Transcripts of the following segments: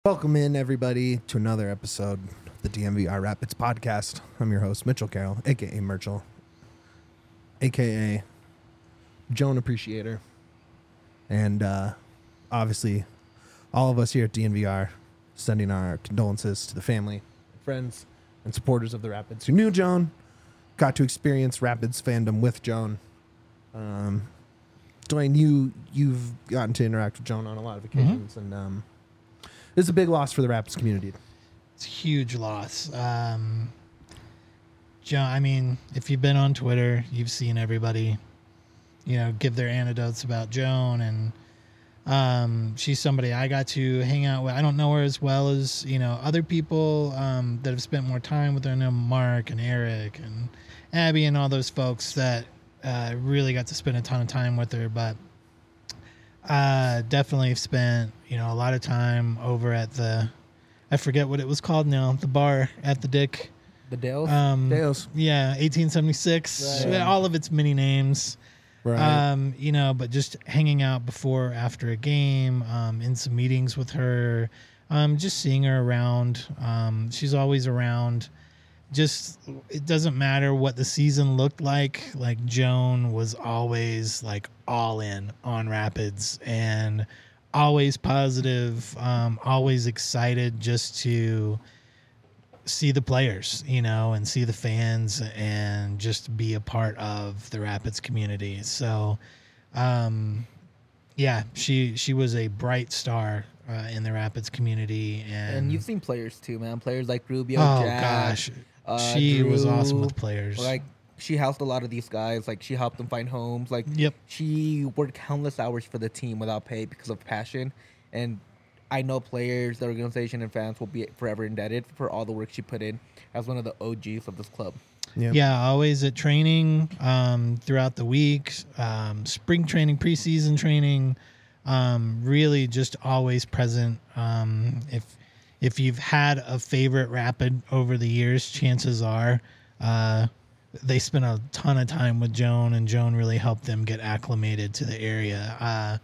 Welcome in, everybody, to another episode of the DMVR Rapids podcast. I'm your host, Mitchell Carroll, a.k.a. Merchel, a.k.a. Joan Appreciator. And obviously, all of us here at DNVR sending our condolences to the family, friends, and supporters of the Rapids who knew Joan, got to experience Rapids fandom with Joan. Dwayne, you've gotten to interact with Joan on a lot of occasions, and this is a big loss for the Rapids community. It's a huge loss. Joan, I mean, if you've been on Twitter, you've seen everybody, give their anecdotes about Joan, and she's somebody I got to hang out with. I don't know her as well as, other people that have spent more time with her. I know Mark and Eric and Abby and all those folks that really got to spend a ton of time with her, but definitely spent, a lot of time over at I forget what it was called now, the bar at the Dick. The Dales? Dales. Yeah, 1876. Right. All of its many names. Right. But just hanging out before, after a game, in some meetings with her, just seeing her around. She's always around. Just, it doesn't matter what the season looked like. Like, Joan was always, all in on Rapids and always positive, always excited just to see the players, and see the fans and just be a part of the Rapids community. So, she was a bright star in the Rapids community. And you've seen players too, man. Players like Rubio, oh Jack, gosh, she was Drew. awesome with players. She housed a lot of these guys. She helped them find homes. Yep. She worked countless hours for the team without pay because of passion. And I know players, the organization, and fans will be forever indebted for all the work she put in as one of the OGs of this club. Yep. Yeah, always at training throughout the week, spring training, preseason training, really just always present. If you've had a favorite Rapid over the years, chances are they spent a ton of time with Joan, and Joan really helped them get acclimated to the area.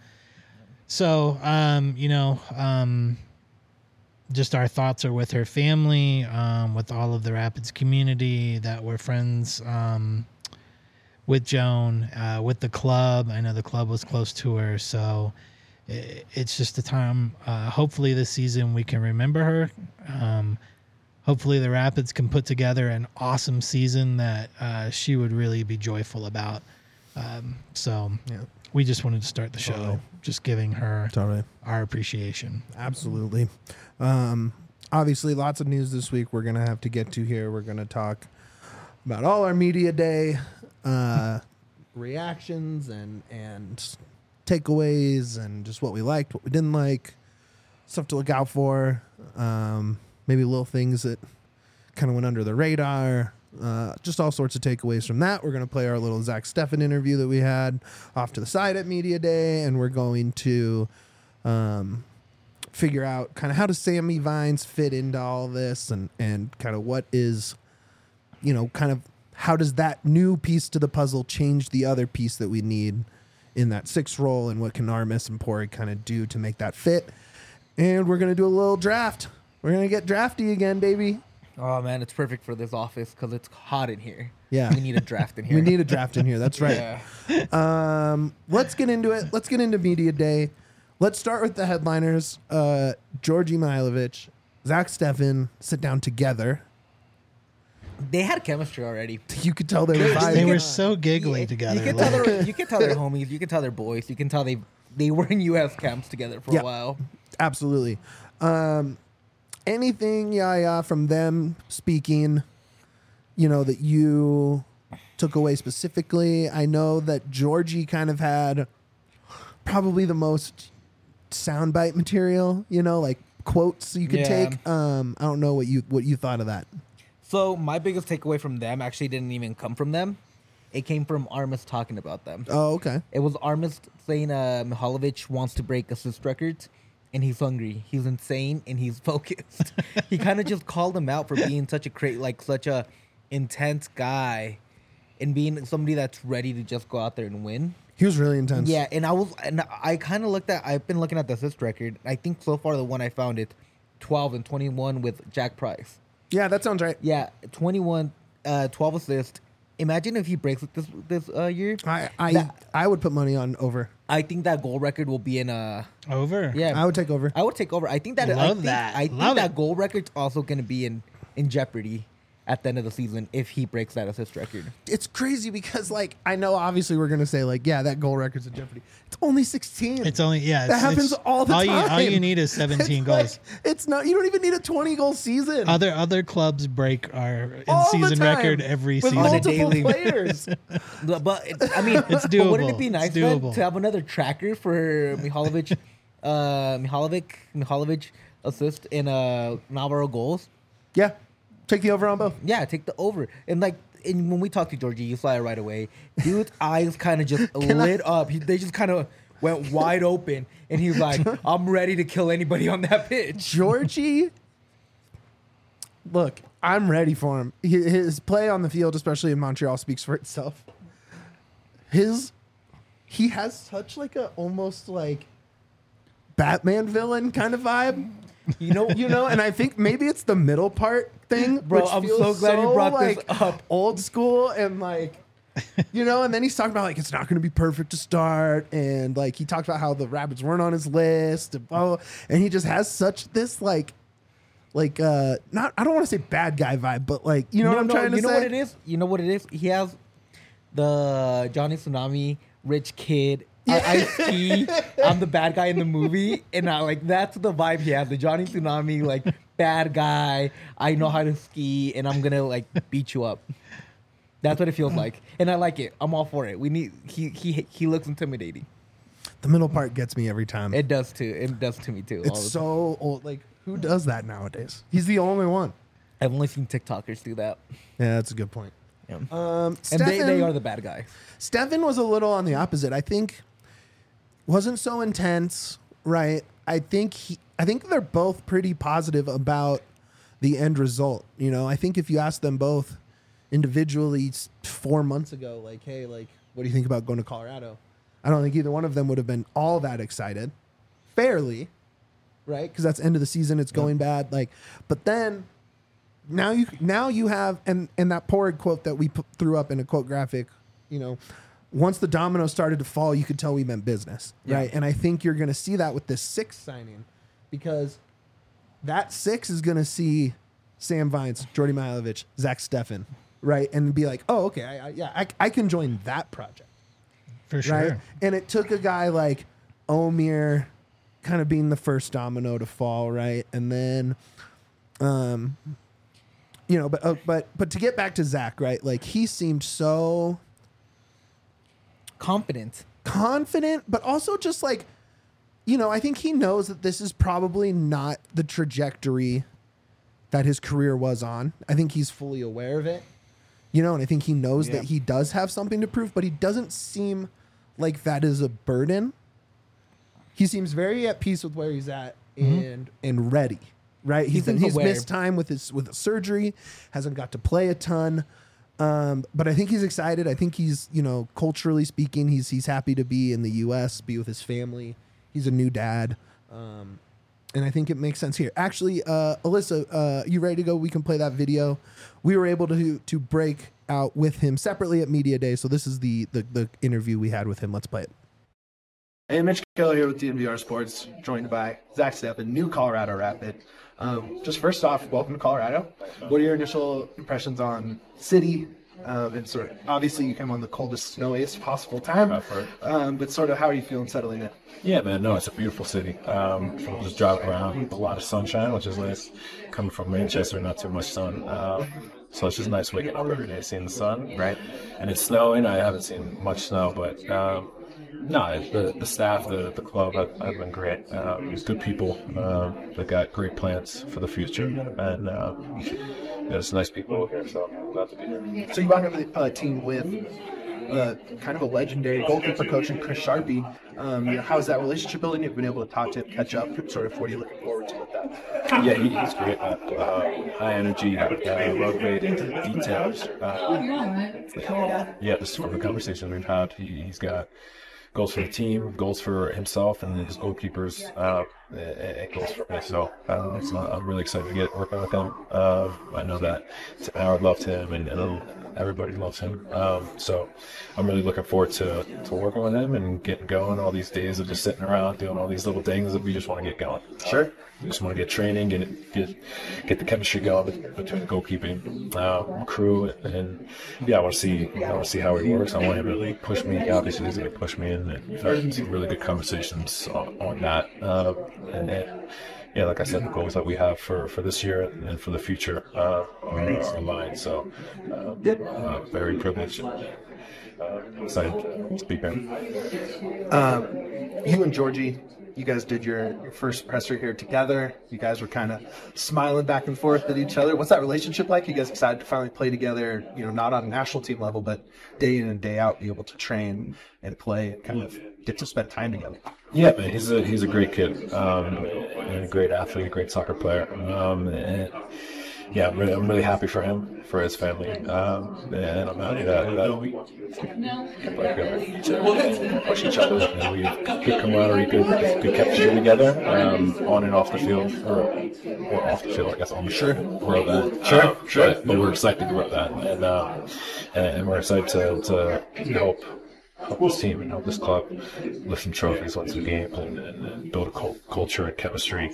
Just our thoughts are with her family, with all of the Rapids community that were friends with Joan, with the club. I know the club was close to her, so it's just a time. Hopefully this season we can remember her. Hopefully the Rapids can put together an awesome season that she would really be joyful about. We just wanted to start the show Totally. just giving her Totally. our appreciation. Absolutely. Obviously, lots of news this week we're going to have to get to here. We're going to talk about all our media day reactions and takeaways and just what we liked, what we didn't like, stuff to look out for, maybe little things that kind of went under the radar, just all sorts of takeaways from that. We're going to play our little Zach Steffen interview that we had off to the side at Media Day, and we're going to figure out kind of how does Sammy Vines fit into all this, and kind of what is, kind of how does that new piece to the puzzle change the other piece that we need in that sixth role, and what can Armis and Pori kind of do to make that fit. And we're going to do a little draft. We're going to get drafty again, baby. Oh, man, it's perfect for this office because it's hot in here. Yeah. We need a draft in here. We need a draft in here. That's right. Yeah. Let's get into it. Let's get into Media Day. Let's start with the headliners. Georgi Mihailovic, Zach Steffen sit down together. They had chemistry already. You could tell they were vibing. They were so giggly together. You can tell they're homies. You can tell they're boys. You can tell they were in U.S. camps together for a while. Absolutely. Anything, from them speaking, that you took away specifically? I know that Georgi kind of had probably the most soundbite material, quotes you could take. I don't know what you thought of that. So my biggest takeaway from them actually didn't even come from them. It came from Armis talking about them. Oh, okay. It was Armis saying Mihailovic wants to break assist records, and he's hungry. He's insane, and he's focused. He kind of just called him out for being such a intense guy, and being somebody that's ready to just go out there and win. He was really intense. Yeah, and I kind of I've been looking at the assist record. I think so far the one I found 12 and 21 with Jack Price. Yeah, that sounds right. Yeah, 21, 12 assists. Imagine if he breaks it this year. I would put money on over. I think that goal record will be in Over. Yeah, I would take over. I would take over. I think that Love that. I think Love that it. goal record's also going to be in jeopardy at the end of the season if he breaks that assist record. It's crazy because, like, I know obviously we're gonna say like, yeah, that goal record's in jeopardy. It's only 16. It's only that happens all the time. All you need is 17 It's goals. like, it's not. You don't even need a 20-goal season. Other clubs break our All the in-season time record every with season. multiple daily. players. But I mean, It's but wouldn't doable. it be nice It's then, doable. to have another tracker for Mihalovic assist in Navarro goals? Yeah, take the over on both. Yeah, take the over. And like, when we talked to Georgie, you saw it right away. Dude's eyes kind of just lit up. They just kind of went wide open, and he's like, "I'm ready to kill anybody on that pitch." Georgie, look, I'm ready for him. His play on the field, especially in Montreal, speaks for itself. He has such like a almost like Batman villain kind of vibe. You know, and I think maybe it's the middle part thing. Bro, which I'm feels so glad you brought this like, up. Old school and like, and then he's talking about like it's not going to be perfect to start, and like he talked about how the Rapids weren't on his list, and blah, blah, and he just has such this not I don't want to say bad guy vibe, but like what I'm trying to say. You know what it is? You know what it is? He has the Johnny Tsunami rich kid. I ski. I'm the bad guy in the movie, and that's the vibe he has. The Johnny Tsunami like bad guy. I know how to ski, and I'm gonna like beat you up. That's what it feels like, and I like it. I'm all for it. We need. He looks intimidating. The middle part gets me every time. It does too. It does to me too. all It's the so old. Like, who does that nowadays? He's the only one. I've only seen TikTokers do that. Yeah, that's a good point. Yeah. And And they are the bad guys. Stefan was a little on the opposite. I think wasn't so intense, right? I think they're both pretty positive about the end result. I think if you ask them both individually 4 months ago, like, hey, like, what do you think about going to Colorado? I don't think either one of them would have been all that excited, fairly, right? Because that's end of the season. It's going bad. Like, but then now you have and that Porrig quote that we threw up in a quote graphic, once the dominoes started to fall, you could tell we meant business, right? And I think you're going to see that with this 6th signing, because that 6 is going to see Sam Vines, Jordy Mihailovic, Zach Steffen, right? And be like, oh, okay, I can join that project. For sure. Right? And it took a guy like Omir kind of being the first domino to fall, right? And then, but to get back to Zach, right? Like, he seemed so Confident. confident, but also just like, I think he knows that this is probably not the trajectory that his career was on. I think he's fully aware of it, and I think he knows that he does have something to prove, but he doesn't seem like that is a burden. He seems very at peace with where he's at and ready, right? He's aware. missed time with the surgery, hasn't got to play a ton. But I think he's excited. I think he's, culturally speaking, he's happy to be in the U.S., be with his family. He's a new dad. And I think it makes sense here. Actually, Alyssa, you ready to go? We can play that video. We were able to break out with him separately at Media Day. So this is the interview we had with him. Let's play it. Hey, Mitch Keller here with DNVR Sports, joined by Zach Steffen, new Colorado Rapid. Just first off, welcome to Colorado. What are your initial impressions on city? And sort of, obviously, you came on the coldest, snowiest possible time. But sort of, how are you feeling settling in? Yeah, man, no, it's a beautiful city. Just driving around, a lot of sunshine, which is nice. Coming from Manchester, not too much sun. So it's just nice waking up every day, seeing the sun. Right. And it's snowing. I haven't seen much snow, but no, the staff, the club have been great. There's good people. They've got great plans for the future. And there's nice people here, so I'm glad to be here. So you brought over the team with kind of a legendary goalkeeper coach in Chris Sharpie. How is that relationship building? You've been able to talk to him, catch up. Sort of, what are you looking forward to with that? Yeah, he's great. High energy, love great into the details. Just from the conversations we've had, he's got goals for the team, goals for himself and his goalkeepers. goals for me. So I'm really excited to get working with him. I know that Howard loved him, and everybody loves him. So I'm really looking forward to working with him and getting going. All these days of just sitting around doing all these little things that we just want to get going. Sure. We just want to get training, get the chemistry going between the goalkeeping crew, and I want to see how he works. I want him to push me. Obviously, he's going to push me, and we've had some really good conversations on that. Like I said, the goals that we have for this year and for the future are aligned. So, very privileged. Excited to be here. You and Georgie, you guys did your first presser here together. You guys were kind of smiling back and forth at each other. What's that relationship like? You guys excited to finally play together, not on a national team level, but day in and day out, be able to train and play and kind of get to spend time together. Yeah, man, he's a great kid, and a great athlete, a great soccer player. And yeah, I'm really happy for him, for his family, and I'm happy that we push each other. And we have good camaraderie, good chemistry together, on and off the field, or off the field, I guess. I'm sure grow that. Sure. But we're excited to grow that, and we're excited to help this team and help this club lift some trophies, win some games, and build a culture and chemistry.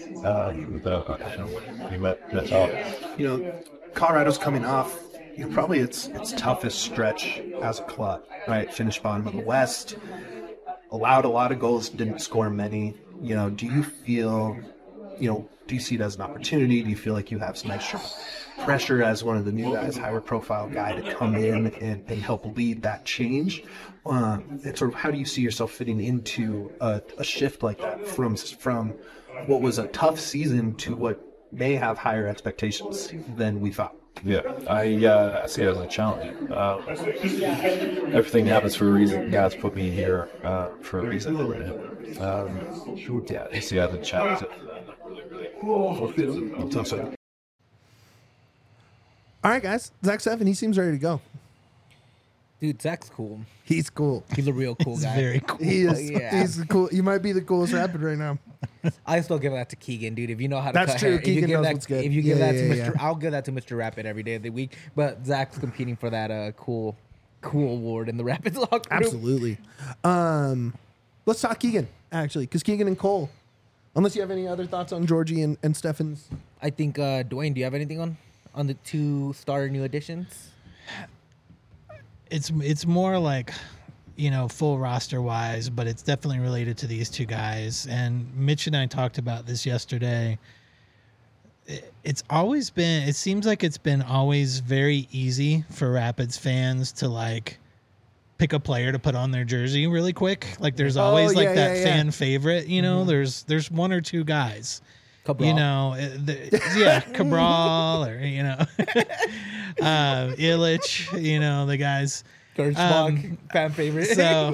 We met out. Colorado's coming off probably its toughest stretch as a club, right? Finished bottom of the West, allowed a lot of goals, didn't score many. Do you feel, do you see it as an opportunity? Do you feel like you have some extra pressure as one of the new guys, higher profile guy, to come in and help lead that change? And sort of how do you see yourself fitting into a shift like that from what was a tough season to what may have higher expectations than we thought? Yeah, I see it as a challenge. Everything happens for a reason. God's put me here for a reason. I see it as a challenge. All right, guys. Zach Steffen, he seems ready to go. Dude, Zach's cool. He's cool. He's a real cool He's guy. very cool. He is. Yeah. He's cool. He might be the coolest rapid right now. I still give that to Keegan, dude. If you know how to That's cut true. hair, Keegan knows what's good. If you give that to Yeah, Mr. yeah. I'll give that to Mr. Rapid every day of the week. But Zach's competing for that cool award in the Rapids locker room. Absolutely. Let's talk Keegan, actually, because Keegan and Cole. Unless you have any other thoughts on Georgie and Steffen's. I think Dwayne, do you have anything on the two starter new additions? It's more like, full roster wise, but it's definitely related to these two guys. And Mitch and I talked about this yesterday. It seems like it's been always very easy for Rapids fans to pick a player to put on their jersey really quick. Like there's always fan favorite, there's one or two guys. Cabral. Cabral or Illich, the guys. Gershbach, fan favorite. So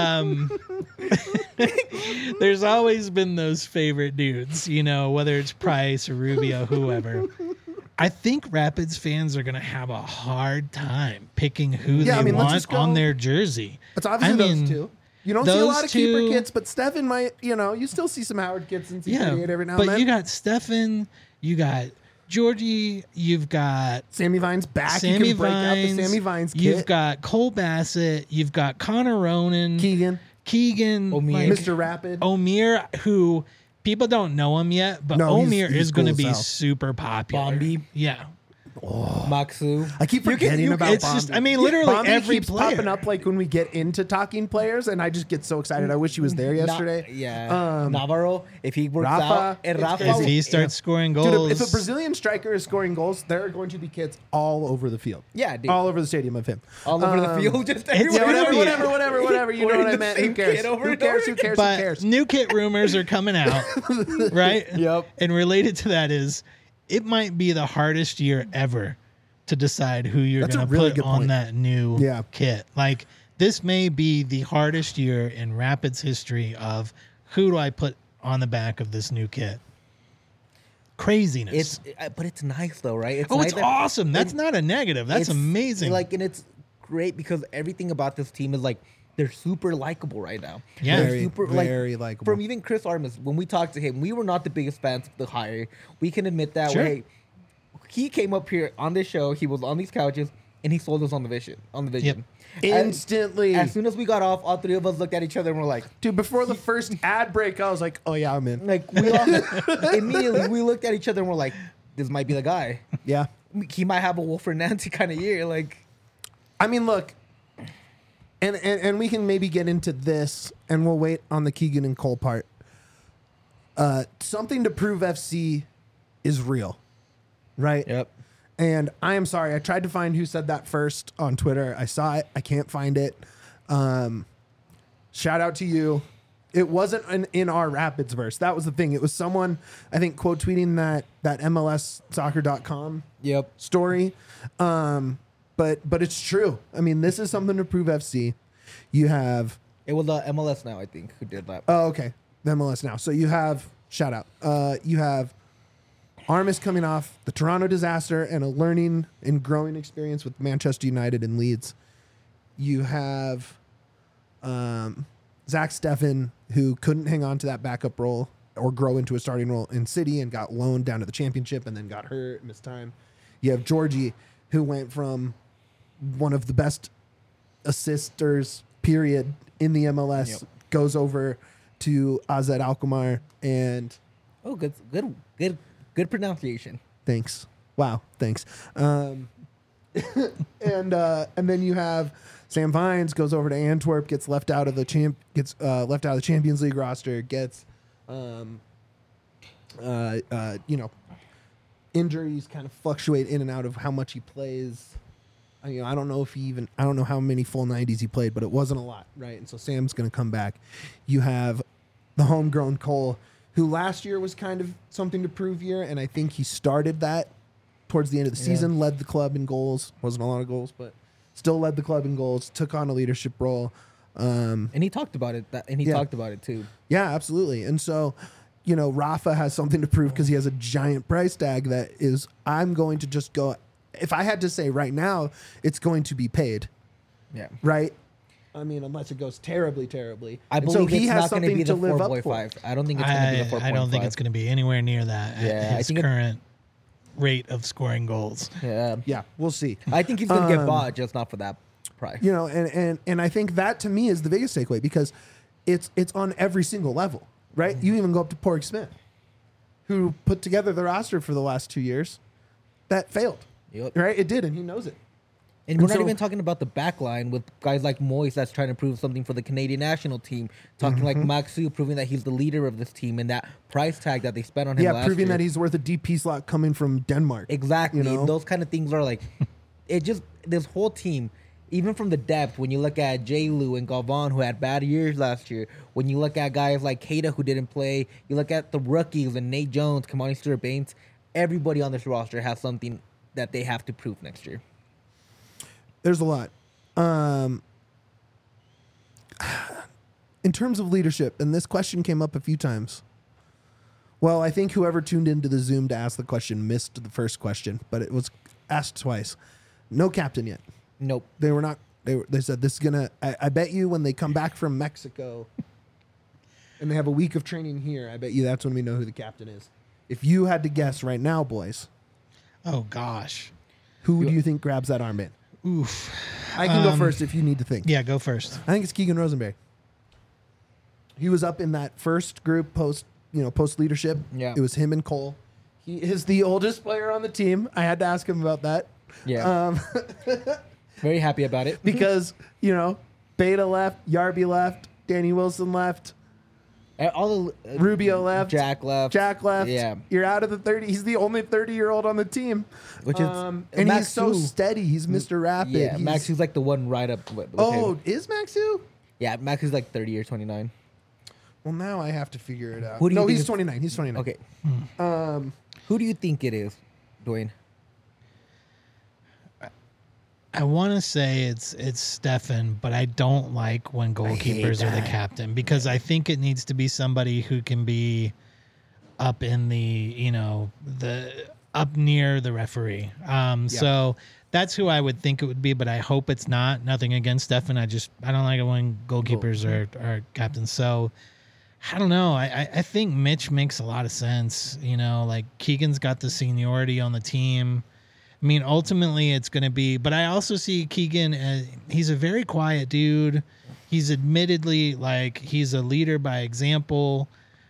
there's always been those favorite dudes, whether it's Price or Rubio, whoever. I think Rapids fans are going to have a hard time picking who they want on their jersey. It's obviously those two. You don't see a lot of keeper kits, but Steffen might, you still see some Howard kits and C38 every now and then. But you got Steffen, you got Georgie, you've got Sammy Vines back. Sammy you can break Vines, out the Sammy Vines kit. You've got Cole Bassett, you've got Connor Ronan, Keegan, Omir. Mr. Rapid. Omir, who people don't know him yet, but Omir he's is going to cool be as hell. super popular. Bombi. Yeah. Maxu. I keep forgetting about It's Bombi. just, literally Bombi every keeps player. popping up when we get into talking players, and I just get so excited. I wish he was there yesterday. Navarro, if he works Rafa, out. And it's Rafa, crazy. If he starts scoring goals. Dude, if a Brazilian striker is scoring goals, there are going to be kits all over the field. Yeah, dude. All over the stadium of him. all over the field, just it's everywhere. gonna Whatever. You know what I meant. Who cares? Who cares? But new kit rumors are coming out, right? Yep. And related to that is, it might be the hardest year ever to decide who you're That's a going to really put good on point. that new kit. Like, this may be the hardest year in Rapids history of who do I put on the back of this new kit. Craziness. But it's nice though, right? It's awesome. That's not a negative. That's amazing. And it's great because everything about this team is they're super likable right now. Yeah. They're Very, super very likable. From even Chris Armas, when we talked to him, we were not the biggest fans of the hire. We can admit that. Sure. Hey, he came up here on this show. He was on these couches, and he sold us on the vision. Yep. Instantly. As soon as we got off, all three of us looked at each other and we're like, Dude, before the first ad break, I was like, oh, yeah, I'm in. we all immediately we looked at each other and we're like, this might be the guy. Yeah. He might have a Wolford Nancy kind of year. Like, I mean, look, and we can maybe get into this, and we'll wait on the Keegan and Cole part. Something to prove FC is real, right? yep. And I am sorry, I tried to find who said that first on Twitter. I saw it, I can't find it. Shout out to you. It wasn't in our Rapids verse. That was the thing. It was someone, I think, quote tweeting that MLSsoccer.com Yep. story. But it's true. I mean, this is something to prove FC. You have It was MLS Now, I think, who did that. okay, the MLS Now. So you have shout out. You have Armas coming off the Toronto disaster and a learning and growing experience with Manchester United and Leeds. You have Zach Steffen, who couldn't hang on to that backup role or grow into a starting role in City and got loaned down to the Championship and then got hurt, missed time. You have Georgie, who went from one of the best assisters, period, in the MLS, Yep. goes over to AZ Alkmaar, and Oh, good pronunciation. thanks. Wow, thanks. And then you have Sam Vines goes over to Antwerp, gets left out of the Champions League roster, gets injuries kind of fluctuate in and out of how much he plays. I don't know how many full 90s he played, but it wasn't a lot, right? And so Sam's going to come back. You have the homegrown Cole, who last year was kind of something to prove year, and I think he started that towards the end of the season, led the club in goals. Wasn't a lot of goals, but still led the club in goals, took on a leadership role. And he talked about it. Talked about it too. Yeah, absolutely. And so, Rafa has something to prove because he has a giant price tag that is, I'm going to just go, if I had to say right now, it's going to be paid, Yeah. right? I mean, unless it goes terribly, terribly. I And believe so he it's has not going to something be to the live up 4.5. for. I don't think it's going to be the 4.5. I don't think it's going to be anywhere near that Yeah, at I his think current rate of scoring goals. Yeah. Yeah, we'll see. I think he's going to get bought, just not for that price. And I think that to me is the biggest takeaway because it's on every single level, right? You even go up to Porg Smith, who put together the roster for the last 2 years, that failed, Yep. right? It did, and he knows it. And we're not so- even talking about the back line with guys like Moyes that's trying to prove something for the Canadian national team. Talking like Maxu, proving that he's the leader of this team and that price tag that they spent on him last Proving year. that he's worth a DP slot coming from Denmark. Exactly. You know? Those kind of things are like, this whole team, even from the depth, when you look at J. Lou and Galvan, who had bad years last year, when you look at guys like Keita, who didn't play, you look at the rookies and Nate Jones, Kamani Stewart-Baines, everybody on this roster has something that they have to prove next year. There's a lot. In terms of leadership, and this question came up a few times. Well, I think whoever tuned into the Zoom to ask the question missed the first question, but it was asked twice. No captain yet. Nope. They were not. They said this is gonna. I bet you when they come back from Mexico, and they have a week of training here, I bet you that's when we know who the captain is. If you had to guess right now, boys, Oh gosh. who do you think grabs that armband? Oof. I can go first if you need to think. Yeah, go first. I think it's Keegan Rosenberry. He was up in that first group post leadership. Yeah. It was him and Cole. He is the oldest player on the team. I had to ask him about that. Yeah. Very happy about it. Because, Beta left, Yarby left, Danny Wilson left, All the Rubio left, Jack left. Yeah. You're out of the 30. He's the only 30-year-old on the team. Which is and Max he's so Hu. steady. He's Mr. Rapid. Yeah, He's, Max is like the one right up with Oh, him. is Maxu? Yeah, Max is like 30 or 29. Well, now I have to figure it out. Who do you No, think he's is- 29. He's 29. Okay. Who do you think it is, Dwayne? I want to say it's Stefan, but I don't like when goalkeepers are the captain because I think it needs to be somebody who can be up in the up near the referee. So that's who I would think it would be, but I hope it's not. Nothing against Stefan. I don't like it when goalkeepers are captains. So I don't know. I think Mitch makes a lot of sense. You know, like Keegan's got the seniority on the team. I mean, ultimately it's going to be, but I also see Keegan as, he's a very quiet dude. He's admittedly like, he's a leader by example.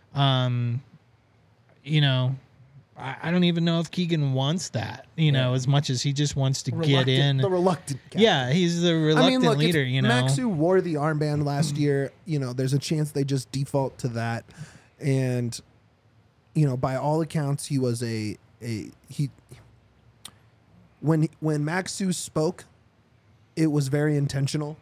You know, I don't even know if Keegan wants that, you know, as much as he just wants to get in. The reluctant captain. Yeah, he's the reluctant leader, if you know. Maxu wore the armband last year, you know, there's a chance they just default to that. And, you know, by all accounts, he was when Maxu spoke, it was very intentional,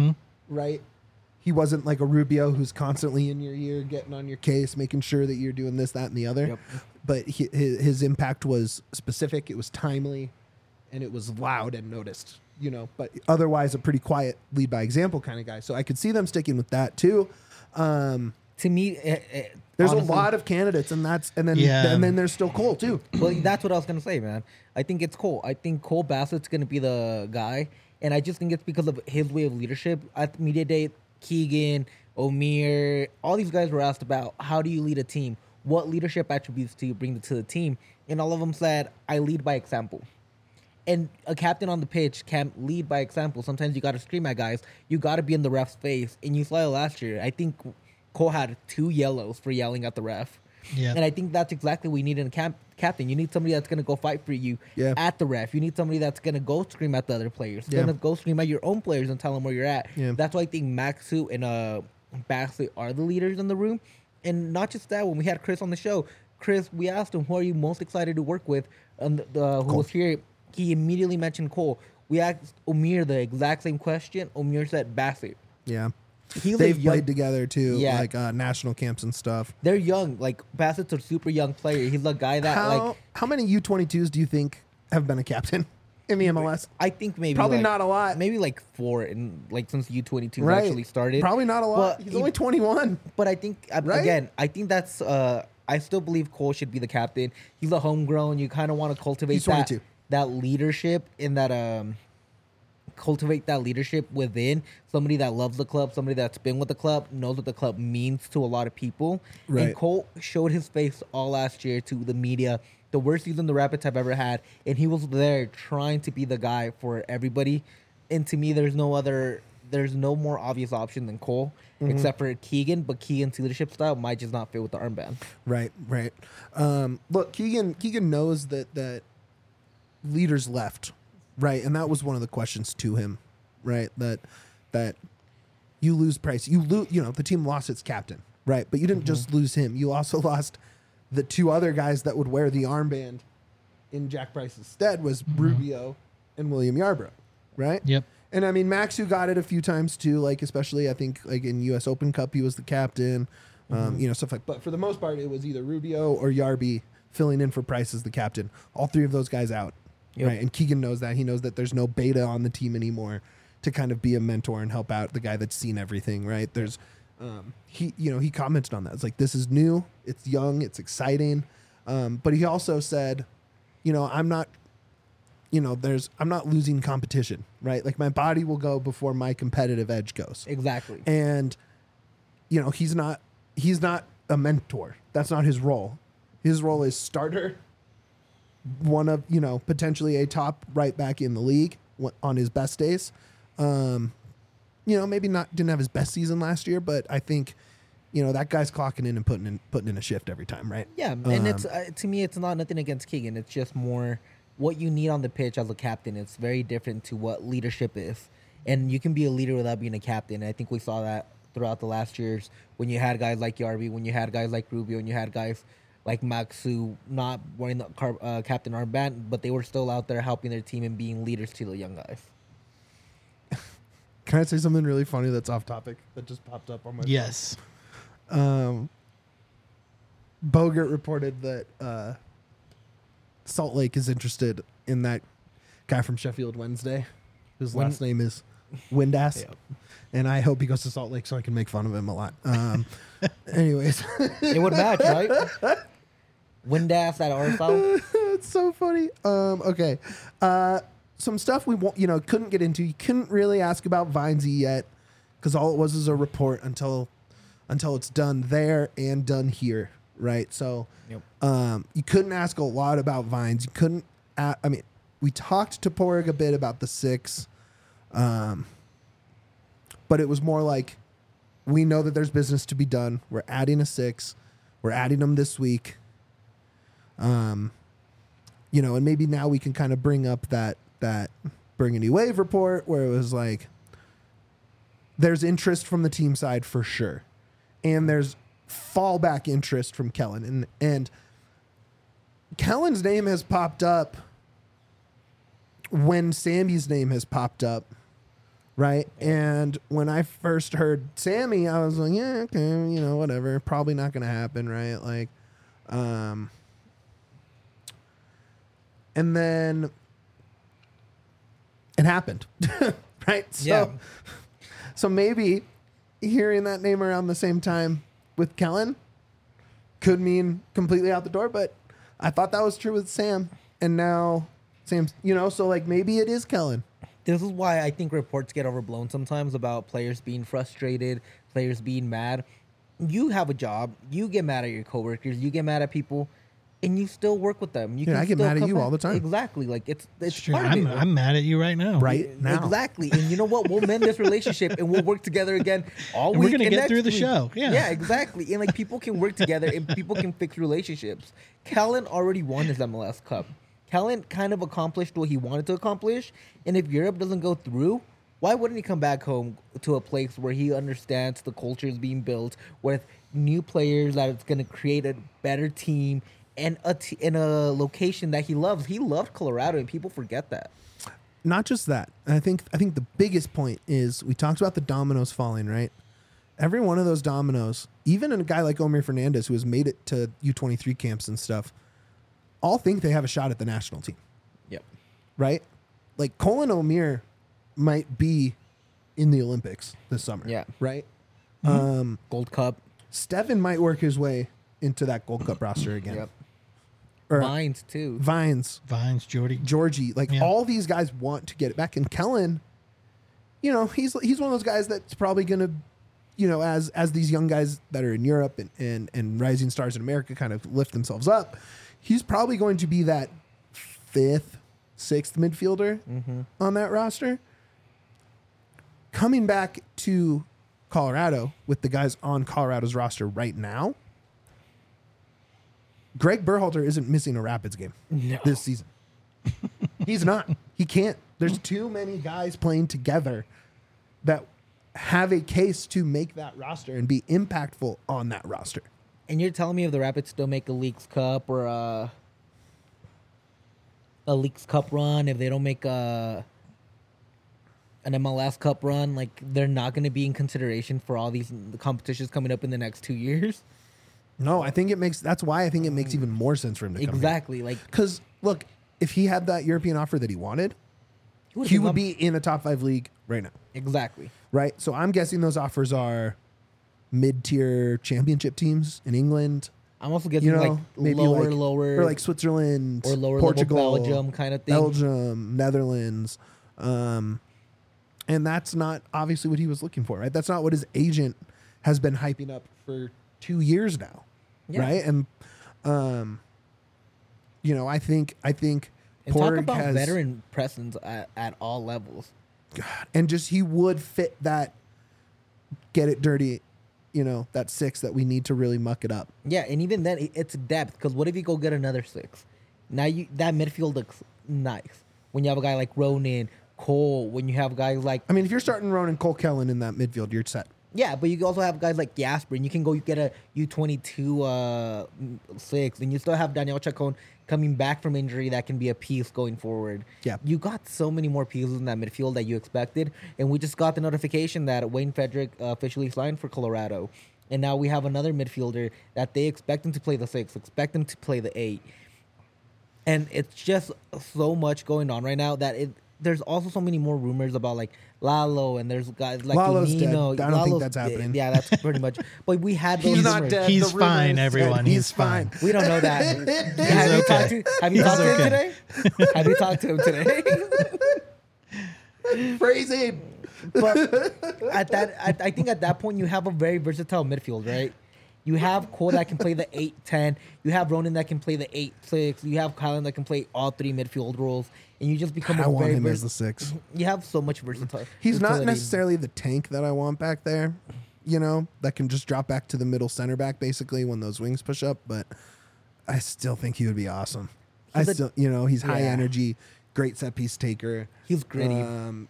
right? He wasn't like a Rubio who's constantly in your ear, getting on your case, making sure that you're doing this, that, and the other. Yep. But his impact was specific, it was timely, and it was loud and noticed, you know. But otherwise, a pretty quiet lead by example kind of guy. So I could see them sticking with that too. To me, There's honestly, a lot of candidates, and then there's still Cole too. Well, that's what I was gonna say, man. I think it's Cole. I think Cole Bassett's gonna be the guy, and I just think it's because of his way of leadership. At Media Day, Keegan, Omir, all these guys were asked about how do you lead a team? What leadership attributes do you bring to the team? And all of them said, I lead by example. And a captain on the pitch can't lead by example. Sometimes you got to scream at guys. You got to be in the ref's face. And you saw it last year. I think Cole had 2 yellows for yelling at the ref. Yeah. And I think that's exactly what we need in a captain. You need somebody that's going to go fight for you at the ref. You need somebody that's going to go scream at the other players. Going to go scream at your own players and tell them where you're at. Yeah. That's why I think Maxu and Basley are the leaders in the room. And not just that, when we had Chris on the show, Chris, we asked him, who are you most excited to work with? Who was here, he immediately mentioned Cole. We asked Omir the exact same question. Omir said Bassett. Yeah. They've played together too, like national camps and stuff. They're young. Like, Bassett's a super young player. He's a guy that, how many U22s do you think have been a captain in the MLS? I think maybe probably not a lot. Maybe like 4 in since U22 right. actually started. Probably not a lot. But he's only 21. But I think again, I think that's I still believe Cole should be the captain. He's a homegrown. You kind of want to cultivate that leadership in that cultivate that leadership within somebody that loves the club, somebody that's been with the club, knows what the club means to a lot of people. Right. And Cole showed his face all last year to the media, the worst season the Rapids have ever had, and he was there trying to be the guy for everybody. And to me, there's no more obvious option than Cole, except for Keegan, but Keegan's leadership style might just not fit with the armband. Right. Look, Keegan knows that leaders left. Right, and that was one of the questions to him, right? That you lose Price, you know, the team lost its captain, right? But you didn't just lose him; you also lost the 2 other guys that would wear the armband in Jack Price's stead was Rubio and William Yarbrough, right? Yep. And I mean, Maxu got it a few times too, like especially I think like in U.S. Open Cup he was the captain, you know, stuff like. But for the most part, it was either Rubio or Yarby filling in for Price as the captain. All 3 of those guys out. Yep. Right, and Keegan knows that. He knows that there's no beta on the team anymore to kind of be a mentor and help out the guy that's seen everything. Right, there's, he commented on that. It's like, this is new, it's young, it's exciting, but he also said, you know, I'm not losing competition. Right, like my body will go before my competitive edge goes. Exactly. And, you know, he's not a mentor. That's not his role. His role is starter. One of, you know, potentially a top right back in the league on his best days. You know, maybe didn't have his best season last year, but I think, you know, that guy's clocking in and putting in a shift every time, right? Yeah, and it's to me, it's not nothing against Keegan. It's just more what you need on the pitch as a captain. It's very different to what leadership is, and you can be a leader without being a captain. I think we saw that throughout the last years when you had guys like Yarby, when you had guys like Rubio, and you had guys like Maxu not wearing the captain armband, but they were still out there helping their team and being leaders to the young guys. Can I say something really funny that's off topic that just popped up on my phone? Bogert reported that Salt Lake is interested in that guy from Sheffield Wednesday, whose last name is Windass. Yeah. And I hope he goes to Salt Lake so I can make fun of him a lot. Anyways. It would match, right? Windass at RSL. That's so funny. Okay. Some stuff we couldn't get into. You couldn't really ask about Vinesy yet because all it was a report until it's done there and done here, right? So you couldn't ask a lot about Vines. You couldn't. We talked to Porig a bit about the 6, but it was more like we know that there's business to be done. We're adding a 6. We're adding them this week. And maybe now we can kind of bring up that Bring a New Wave report where it was like there's interest from the team side for sure. And there's fallback interest from Kellen. And Kellen's name has popped up when Sammy's name has popped up, right? And when I first heard Sammy, I was like, yeah, okay, whatever. Probably not going to happen, right? Like, and then it happened, right? So maybe hearing that name around the same time with Kellen could mean completely out the door, but I thought that was true with Sam, and now Sam's, so like maybe it is Kellen. This is why I think reports get overblown sometimes about players being frustrated, players being mad. You have a job, you get mad at your coworkers, you get mad at people, and you still work with them. I get mad at you all the time. Exactly, like it's True. part of it. I'm mad at you right now. Right now. Exactly, and you know what? We'll mend this relationship and we'll work together again all And week. we're gonna and get next through the week. show. Yeah. Yeah, exactly. And like people can work together and people can fix relationships. Kellen already won his MLS Cup. Kellen kind of accomplished what he wanted to accomplish, and if Europe doesn't go through, why wouldn't he come back home to a place where he understands the culture is being built with new players that it's going to create a better team and in a location that he loves? He loved Colorado, and people forget that. Not just that. I think the biggest point is we talked about the dominoes falling, right? Every one of those dominoes, even a guy like Omir Fernandez, who has made it to U23 camps and stuff, all think they have a shot at the national team. Yep. Right? Like Colin Omir might be in the Olympics this summer. Yeah. Right? Gold Cup. Steven might work his way into that Gold Cup roster again. Yep. Or Vines, too. Vines, Jordy. Georgie. Like Yeah. all these guys want to get it back. And Kellen, he's one of those guys that's probably going to, as these young guys that are in Europe and rising stars in America kind of lift themselves up, he's probably going to be that 5th, 6th midfielder on that roster. Coming back to Colorado with the guys on Colorado's roster right now, Greg Berhalter isn't missing a Rapids game this season. He's not. He can't. There's too many guys playing together that have a case to make that roster and be impactful on that roster. And you're telling me if the Rapids still make a Leagues Cup or a Leagues Cup run, if they don't make an MLS Cup run, like they're not going to be in consideration for all these competitions coming up in the next 2 years? No, that's why I think it makes even more sense for him to come Exactly. Like, because look, if he had that European offer that he wanted, he would be in a top 5 league right now. Exactly. Right? So I'm guessing those offers are mid-tier championship teams in England. I'm also guessing like maybe lower, or like Switzerland, or lower Portugal, level Belgium kind of thing. Belgium, Netherlands, and that's not obviously what he was looking for, right? That's not what his agent has been hyping up for 2 years now, right? And I think and Porig talk about has veteran presence at all levels. God, and just he would fit that get it dirty, that 6 that we need to really muck it up. Yeah, and even then, it's depth. Because what if you go get another 6? Now that midfield looks nice. When you have a guy like Ronan, Cole, when you have guys like... I mean, if you're starting Ronan, Cole, Kellen in that midfield, you're set. Yeah, but you can also have guys like Jasper, and you can go get a U22 6, and you still have Daniel Chacon coming back from injury that can be a piece going forward. Yeah. You got so many more pieces in that midfield that you expected, and we just got the notification that Wayne Frederick officially signed for Colorado, and now we have another midfielder that they expect him to play the 6, expect him to play the 8. And it's just so much going on right now that there's also so many more rumors about like Lalo, and there's guys like Lalo's dead. Nino. I don't think Lalo's that's happening. Yeah, that's pretty much. But we had those He's not rumors. dead. He's The fine, rumors everyone. said He's fine. We don't know that. Have you okay. talked to? Have you talked to him okay. today? Have you talked to him today? Crazy. But I think at that point you have a very versatile midfield, right? You have Cole that can play the 8-10. You have Ronan that can play the 8-6. You have Kylan that can play all three midfield roles, and you just become I a want very him as the 6. You have so much versatility. He's not necessarily the tank that I want back there, you know, that can just drop back to the middle center back basically when those wings push up, but I still think he would be awesome. He's high Yeah. energy, great set piece taker. He's gritty.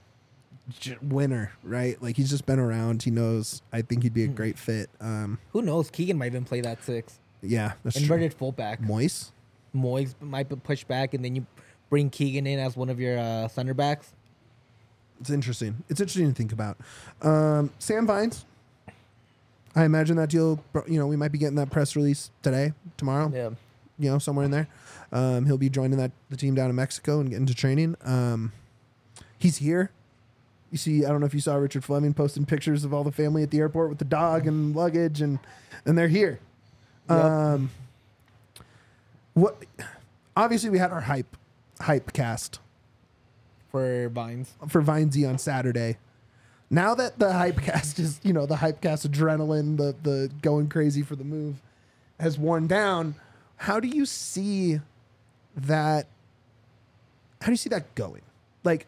Winner, right? Like he's just been around. He knows. I think he'd be a great fit. Who knows? Keegan might even play that 6. Yeah, that's Inverted fullback. Moise. Moyes might be pushed back, and then you bring Keegan in as one of your center backs. It's interesting. It's interesting to think about. Sam Vines. I imagine that deal. You know, we might be getting that press release today, tomorrow. Yeah. You know, somewhere in there. He'll be joining the team down in Mexico and getting to training. He's here. You see, I don't know if you saw Richard Fleming posting pictures of all the family at the airport with the dog and luggage, and they're here. Yep. What? Obviously, we had our hype cast For Vines. for Vinesy on Saturday. Now that the hype cast is, you know, the hype cast adrenaline, the going crazy for the move has worn down, how do you see that? How do you see that going? Like,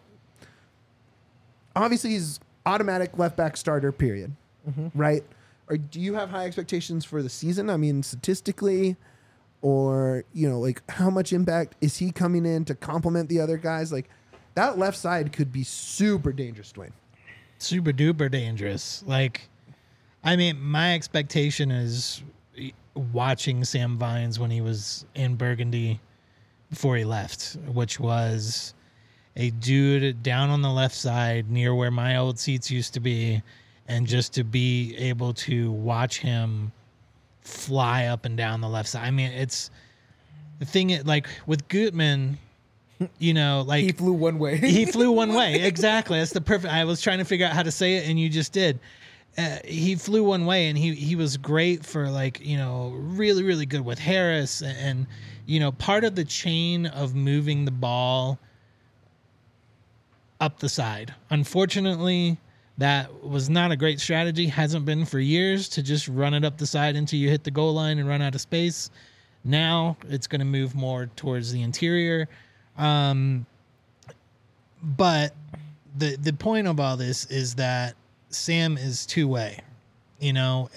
obviously he's automatic left back starter, period. Right? Or do you have high expectations for the season? I mean, statistically, or, you know, like how much impact is he coming in to complement the other guys? Like that left side could be super dangerous, Dwayne. Super duper dangerous. Like, I mean, my expectation is watching Sam Vines when he was in Burgundy before he left, which was a dude down on the left side near where my old seats used to be, and just to be able to watch him fly up and down the left side. I mean, it's the thing, like with Gutman, you know, like He flew one way. he flew one way. Exactly. That's the perfect. I was trying to figure out how to say it, and you just did. He flew one way, and he was great for, like, you know, really, really good with Harris. And, you know, part of the chain of moving the ball up the side. Unfortunately, that was not a great strategy. Hasn't been for years, to just run it up the side until you hit the goal line and run out of space. Now it's going to move more towards the interior. But the point of all this is that Sam is two-way. You know,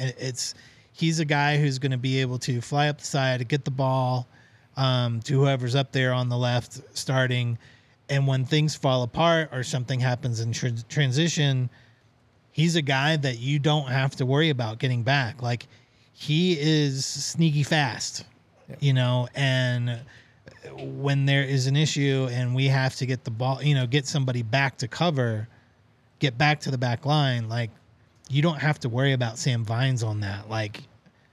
he's a guy who's going to be able to fly up the side, get the ball to whoever's up there on the left starting. And when things fall apart or something happens in transition, he's a guy that you don't have to worry about getting back. Like, he is sneaky fast, you know, and when there is an issue and we have to get the ball, you know, get somebody back to cover, get back to the back line, like, you don't have to worry about Sam Vines on that. Like,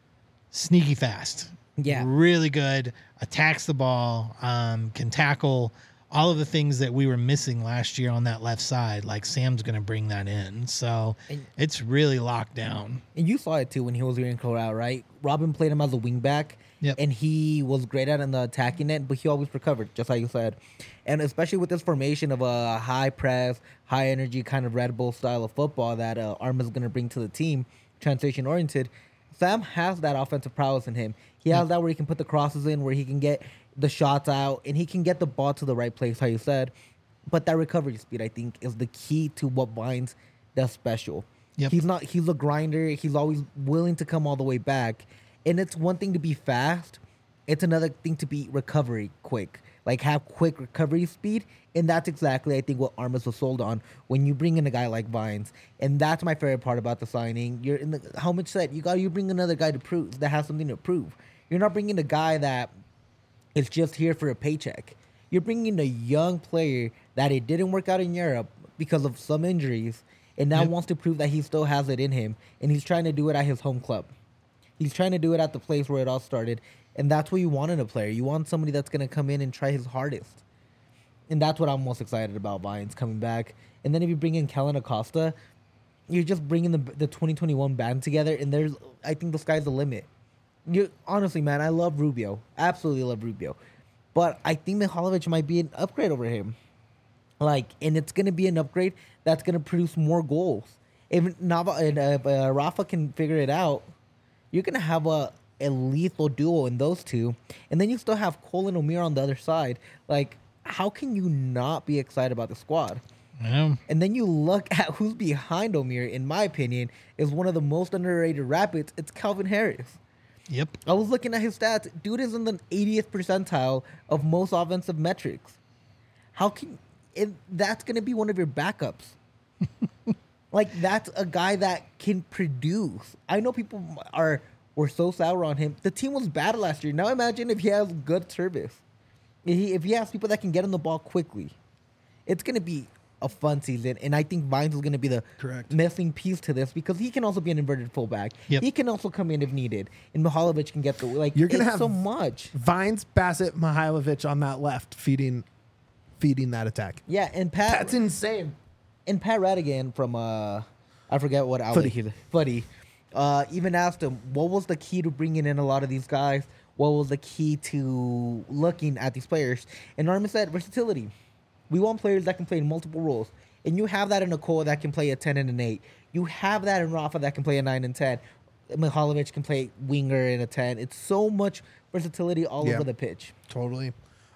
sneaky fast. Yeah. Really good. Attacks the ball, can tackle. All of the things that we were missing last year on that left side, like, Sam's going to bring that in. So it's really locked down. And you saw it too when he was here in Colorado, right? Robin played him as a wingback, and he was great at in the attacking end, but he always recovered, just like you said. And especially with this formation of a high press, high energy kind of Red Bull style of football that Arma's going to bring to the team, transition oriented, Sam has that offensive prowess in him. He has that where he can put the crosses in, where he can get the shots out, and he can get the ball to the right place, how you said. But that recovery speed, I think, is the key to what Vines does special. Yep. He's a grinder. He's always willing to come all the way back. And it's one thing to be fast. It's another thing to be recovery quick. Like, have quick recovery speed. And that's exactly, I think, what Armas was sold on when you bring in a guy like Vines. And that's my favorite part about the signing. You're in the helmet set. You bring another guy to prove, that has something to prove. You're not bringing a guy that is just here for a paycheck. You're bringing a young player that it didn't work out in Europe because of some injuries, and now wants to prove that he still has it in him, and he's trying to do it at his home club. He's trying to do it at the place where it all started, and that's what you want in a player. You want somebody that's going to come in and try his hardest. And that's what I'm most excited about, Vines coming back. And then if you bring in Kellen Acosta, you're just bringing the 2021 band together, and I think the sky's the limit. Honestly, man, I love Rubio. Absolutely love Rubio. But I think Mihalovic might be an upgrade over him. And it's going to be an upgrade that's going to produce more goals. If Rafa can figure it out, you're going to have a lethal duo in those two. And then you still have Cole and Omir on the other side. How can you not be excited about the squad? Yeah. And then you look at who's behind Omir, in my opinion, is one of the most underrated Rapids. It's Calvin Harris. Yep. I was looking at his stats. Dude is in the 80th percentile of most offensive metrics. That's going to be one of your backups. That's a guy that can produce. I know people were so sour on him. The team was bad last year. Now imagine if he has good service. If he has people that can get him the ball quickly. It's going to be a fun season, and I think Vines is going to be the missing piece to this because he can also be an inverted fullback. Yep. He can also come in if needed, and Mihalovic can get You're gonna have so much. Vines, Bassett, Mihailovic on that left feeding that attack. Yeah, and Pat. That's insane. And Pat Radigan from I forget what outlet Footy. Even asked him what was the key to bringing in a lot of these guys. What was the key to looking at these players? And Norman said versatility. We want players that can play in multiple roles. And you have that in Nicole that can play a 10 and an 8. You have that in Rafa that can play a 9 and 10. Mihalovic can play winger in a 10. It's so much versatility all over the pitch. Totally.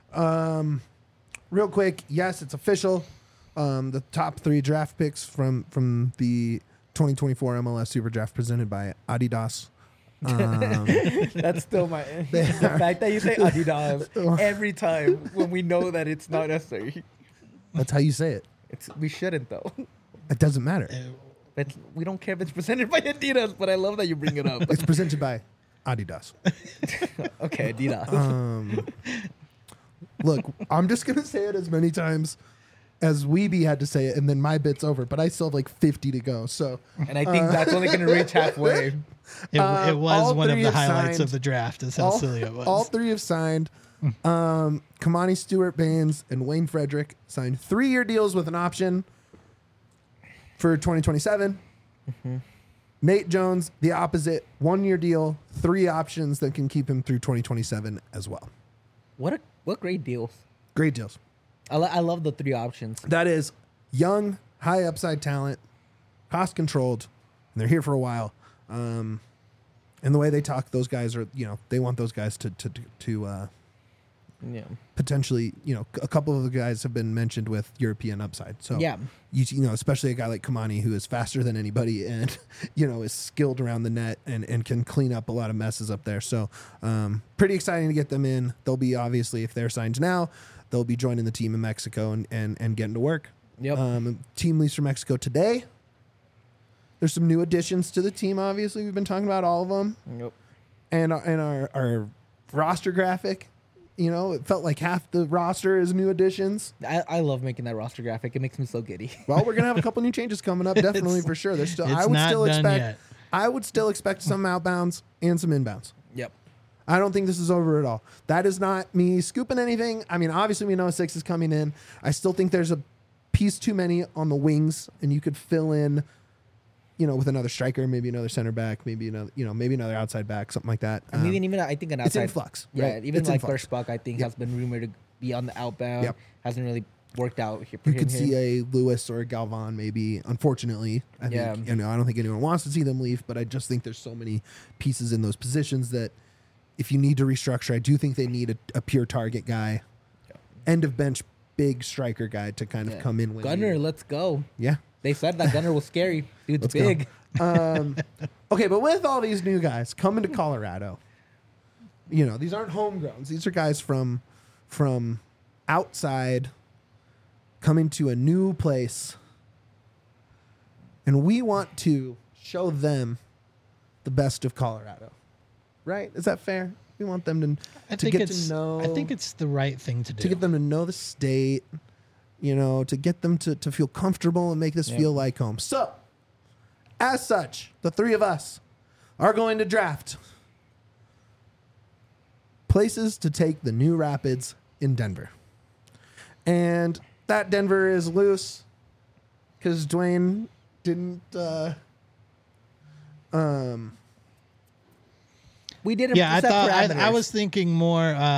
Real quick, yes, it's official. The top 3 draft picks from the 2024 MLS Super Draft presented by Adidas. That's still the fact that you say Adidas every time when we know that it's not necessary. That's how you say it. We shouldn't though. It doesn't matter. We don't care if it's presented by Adidas, but I love that you bring it up. It's presented by Adidas. Okay, Adidas. Look, I'm just gonna say it as many times as Weeby had to say it, and then my bit's over. But I still have 50 to go. So, and I think that's only gonna reach halfway. It was one of the highlights signed. of the draft. Is how silly it was. All 3 have signed. Kamani Stewart Baines and Wayne Frederick signed 3-year deals with an option for 2027. Mm-hmm. Nate Jones, the opposite, 1-year deal, 3 options that can keep him through 2027 as well. What great deals! Great deals. I love the 3 options. That is young, high upside talent, cost controlled, and they're here for a while. And the way they talk, those guys are, they want those guys to potentially, a couple of the guys have been mentioned with European upside. So, especially a guy like Kamani who is faster than anybody and, is skilled around the net and can clean up a lot of messes up there. So, pretty exciting to get them in. They'll be, obviously, if they're signed now, they'll be joining the team in Mexico and getting to work. Yep. Team leaves for Mexico today. There's some new additions to the team, obviously. We've been talking about all of them. Yep. And our roster graphic, it felt like half the roster is new additions. I love making that roster graphic. It makes me so giddy. Well, we're going to have a couple new changes coming up, definitely, for sure. There's still, I would still expect some outbounds and some inbounds. Yep. I don't think this is over at all. That is not me scooping anything. I mean, obviously we know 6 is coming in. I still think there's a piece too many on the wings, and you could fill in, with another striker, maybe another center back, maybe another outside back, something like that. I mean, I think an outside. It's in flux. Yeah, right? even it's Buck, I think, has been rumored to be on the outbound. Yep. Hasn't really worked out here. You could see a Lewis or a Galvan, maybe. Unfortunately, I think, I don't think anyone wants to see them leave, but I just think there's so many pieces in those positions that if you need to restructure, I do think they need a pure target guy, end of bench, big striker guy to kind of come in. Gunner, let's go. Yeah. They said that Gunner was scary. Dude's big. Okay, but with all these new guys coming to Colorado, these aren't homegrowns. These are guys from outside coming to a new place. And we want to show them the best of Colorado. Right? Is that fair? We want them to get to know. I think it's the right thing to do. To get them to know the state, to get them to feel comfortable and make this feel like home. So, as such, the 3 of us are going to draft places to take the new Rapids in Denver. And that Denver is loose because Dwayne didn't. We didn't. Yeah, I set thought I parameters. was thinking more.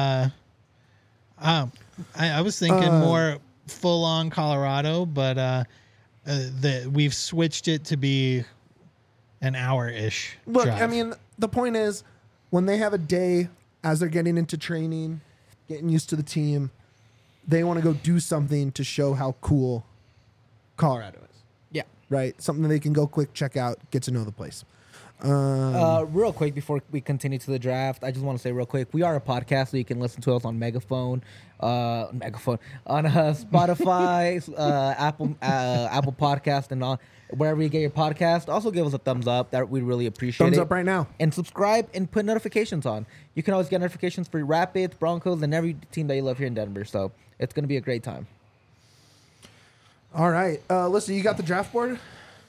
I was thinking more full on Colorado, but we've switched it to be an hour ish. Look, I mean, the point is, when they have a day as they're getting into training, getting used to the team, they want to go do something to show how cool Colorado is. Yeah. Right? Something that they can go quick, check out, get to know the place. Real quick before we continue to the draft, I just want to say real quick, we are a podcast, so you can listen to us on Megaphone, on Spotify, Apple Podcast, and all, wherever you get your podcast. Also, give us a thumbs up. That we'd really appreciate Thumbs it. up right now. And subscribe and put notifications on. You can always get notifications for Rapids, Broncos, and every team that you love here in Denver. So it's going to be a great time. All right. Listen, you got the draft board?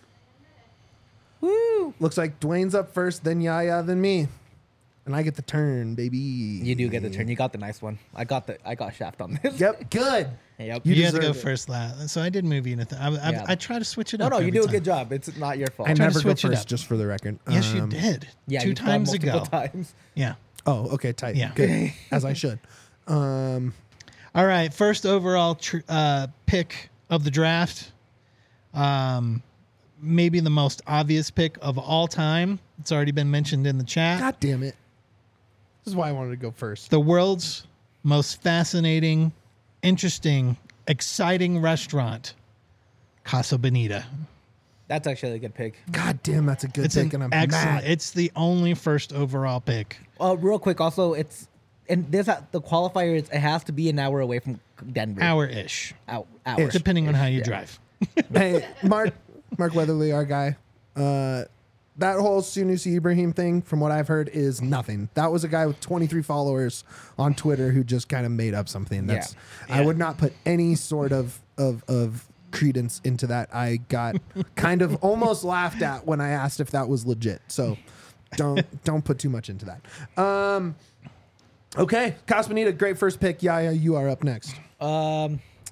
Woo! Looks like Dwayne's up first, then Yaya, then me. And I get the turn, baby. You do get the turn. You got the nice one. I got Shaft on this. Yep, good. Yep. You you had to go deserve it. first last, so I did move you. Yeah. I try to switch it No, up. no, you every do a time. good job. It's not your fault. I trying to never go switch it first, up. just for the record. Yes, you did. Yeah, two you've gone times ago. multiple times. Yeah. Oh, okay, tight. Yeah. Good. As I should. All right, first overall pick of the draft. Maybe the most obvious pick of all time. It's already been mentioned in the chat. God damn it. This is why I wanted to go first. The world's most fascinating, interesting, exciting restaurant, Casa Bonita. That's actually a good pick. God damn, that's a good It's pick, an and I'm excellent. mad. It's the only first overall pick. Real quick, also, the qualifier is it has to be an hour away from Denver. Hour-ish, Hour. depending on how you drive. Hey, Mark Weatherly, our guy. That whole Sunusi Ibrahim thing, from what I've heard, is nothing. That was a guy with 23 followers on Twitter who just kind of made up something. That's I would not put any sort of credence into that. I got kind of almost laughed at when I asked if that was legit. So don't put too much into that. Okay, Casa Bonita, great first pick. Yaya, you are up next. Oh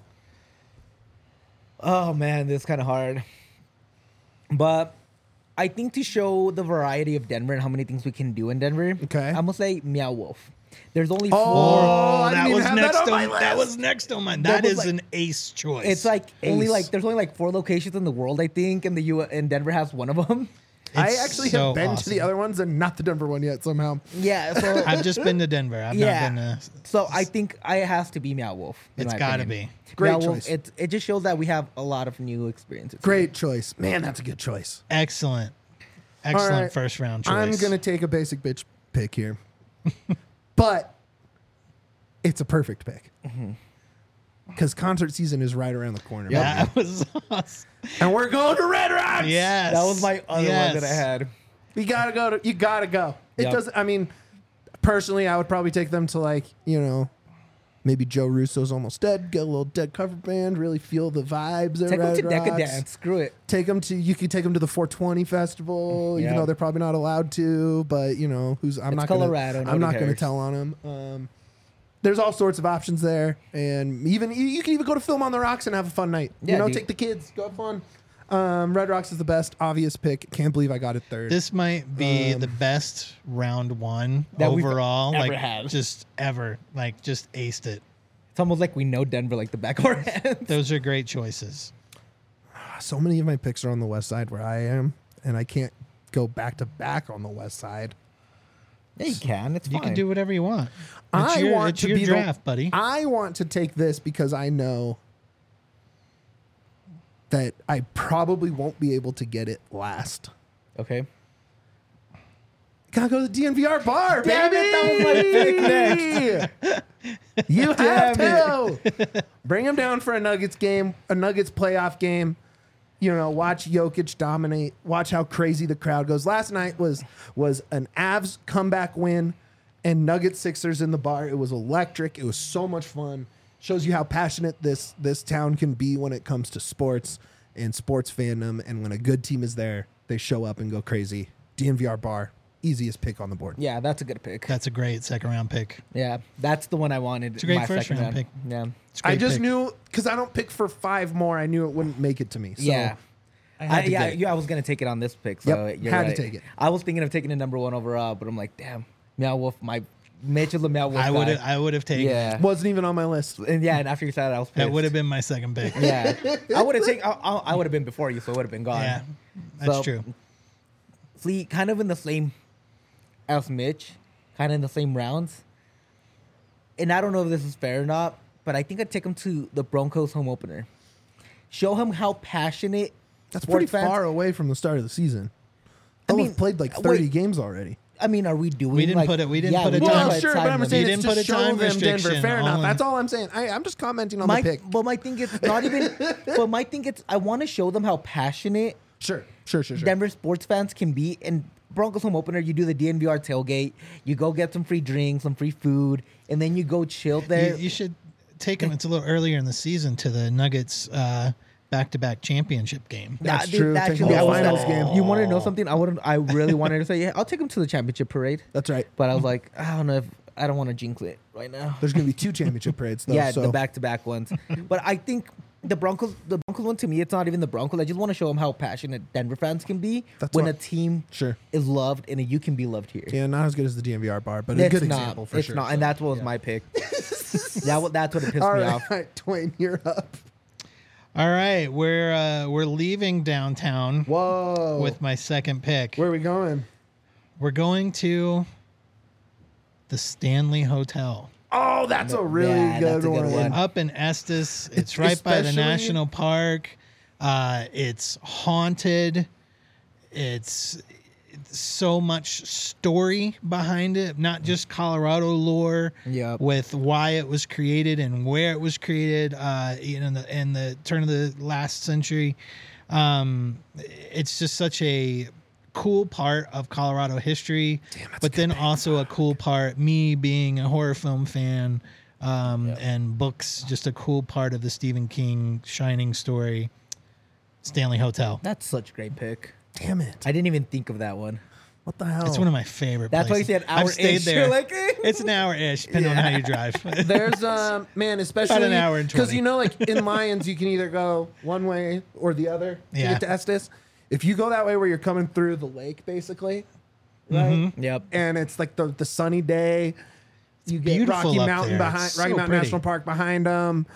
man, this is kind of hard. But I think to show the variety of Denver and how many things we can do in Denver, Okay. I'm gonna say Meow Wolf. There's only Oh, four. I that didn't was even have next that on my on list. that was next on mine. That That was is like- an ace choice. It's like Ace. there's only like 4 locations in the world, I think, and and Denver has one of them. I It's actually so have been to awesome. the other ones and not the Denver one yet somehow. Yeah, so I've just been to Denver. I've yeah. not been to. So I think it has to be Meow Wolf. in It's my got to opinion. be. Great Meow Wolf, choice. it just shows that we have a lot of new experiences. Great choice. Man, that's a good choice. Excellent All right. first round choice. I'm going to take a basic bitch pick here. But it's a perfect pick. Because concert season is right around the corner. That was awesome. And we're going to Red Rocks. Yes. That was my other one that I had. You got to go. You got to go. It Yep. doesn't, I mean, personally, I would probably take them to maybe Joe Russo's Almost Dead, get a little Dead cover band, really feel the vibes at Take them Red to Rocks. Decadence. Screw it. You could take them to the 420 festival, even Yeah. though they're probably not allowed to, but I'm It's not Colorado, I'm not nobody going to cares. tell on them. There's all sorts of options there, and you can even go to Film on the Rocks and have a fun night. Yeah, dude. Take the kids, go have fun. Red Rocks is the best obvious pick. Can't believe I got it third. This might be the best round one That we've overall. ever like had. just ever. Like just aced it. It's almost like we know Denver like the back of our hands. Those are great choices. So many of my picks are on the west side where I am, and I can't go back to back on the west side. Yeah, you can. It's You fine. can do whatever you want. It's I your, want it's to your be draft, buddy. I want to take this because I know that I probably won't be able to get it last. Okay. Gotta go to the DNVR bar, Damn baby. it, that was my next. You have Damn to bring him down for a Nuggets game, a Nuggets playoff game. Watch Jokic dominate. Watch how crazy the crowd goes. Last night was an Avs comeback win, and Nuggets Sixers in the bar. It was electric. It was so much fun. Shows you how passionate this town can be when it comes to sports and sports fandom. And when a good team is there, they show up and go crazy. DNVR bar, easiest pick on the board. Yeah, that's a good pick. That's a great second round pick. Yeah, that's the one I wanted. It's a great my first second round pick. Yeah. It's a I great just pick. knew because I don't pick for 5 more. I knew it wouldn't make it to me. So Yeah. I had to get it. I was gonna take it on this pick. So Yep, you're had to right. take it. I was thinking of taking it number 1 overall, but I'm like, damn, Meow Wolf. My Mitch is a Meow Wolf. I would have taken. Yeah. Wasn't even on my list. And yeah, and after you said that, I was pissed. That would have been my second pick. Yeah, I would have taken. I would have been before you, so it would have been gone. Yeah, that's So, true. See, kind of in the same as Mitch, kind of in the same rounds. And I don't know if this is fair or not, but I think I'd take him to the Broncos home opener. Show him how passionate. That's sports pretty fans- far away from the start of the season. I They'll mean, have played like 30 wait. games already. I mean, are we doing? We didn't like, put it- we didn't yeah, put a we time- didn't Well, put a sure, time but I'm limit. saying You it's didn't to put a show time them Denver. restriction Fair enough. on- That's all I'm saying. I'm just commenting on the pick. But my thing it's not even. But my thing it's I want to show them how passionate Sure. Denver sports fans can be. And Broncos home opener, you do the DNVR tailgate, you go get some free drinks, some free food, and then you go chill there. You should take him. It's a little earlier in the season to the Nuggets back-to-back championship game. That's Dude, true. Take actually, the I was finals gonna- game. You want to know something? I really wanted to say, yeah, I'll take him to the championship parade. That's right. But I was like, I don't know if I don't want to jinx it right now. There's going to be 2 championship parades, though. Yeah, so. the back-to-back ones. But I think the Broncos one to me, it's not even the Broncos. I just want to show them how passionate Denver fans can be That's when what- a team Sure. is loved and you can be loved here. Yeah, not as good as the DNVR bar, but a It's good not. example for It's sure. not, and that's what was my pick. That's what it pissed All me right, off. Dwayne, you're up. All right, we're leaving downtown Whoa. with my second pick. Where are we going? We're going to the Stanley Hotel Oh, that's a really Yeah, good, that's a good one. one. up in Estes. It's right by the Especially- national park. It's haunted. It's so much story behind it, not just Colorado lore. Yep. With why it was created and where it was created. In the turn of the last century. It's just such a cool part of Colorado history, but then also a cool part, me being a horror film fan, and books, just a cool part of the Stephen King Shining story, Stanley Hotel. That's such a great pick. Damn it. I didn't even think of that one. What the hell? It's one of my favorite That's why you places. said hour I've stayed ish. there. You're like, eh. It's an hour-ish, depending on how you drive. There's man, especially an hour and 20. because like in Lions, you can either go one way or the other to Yeah. get to Estes. If you go that way, where you're coming through the lake, basically, right? Yep. And it's like the sunny day. You get beautiful Rocky up Mountain there. behind It's Rocky so Mountain pretty. National Park behind them.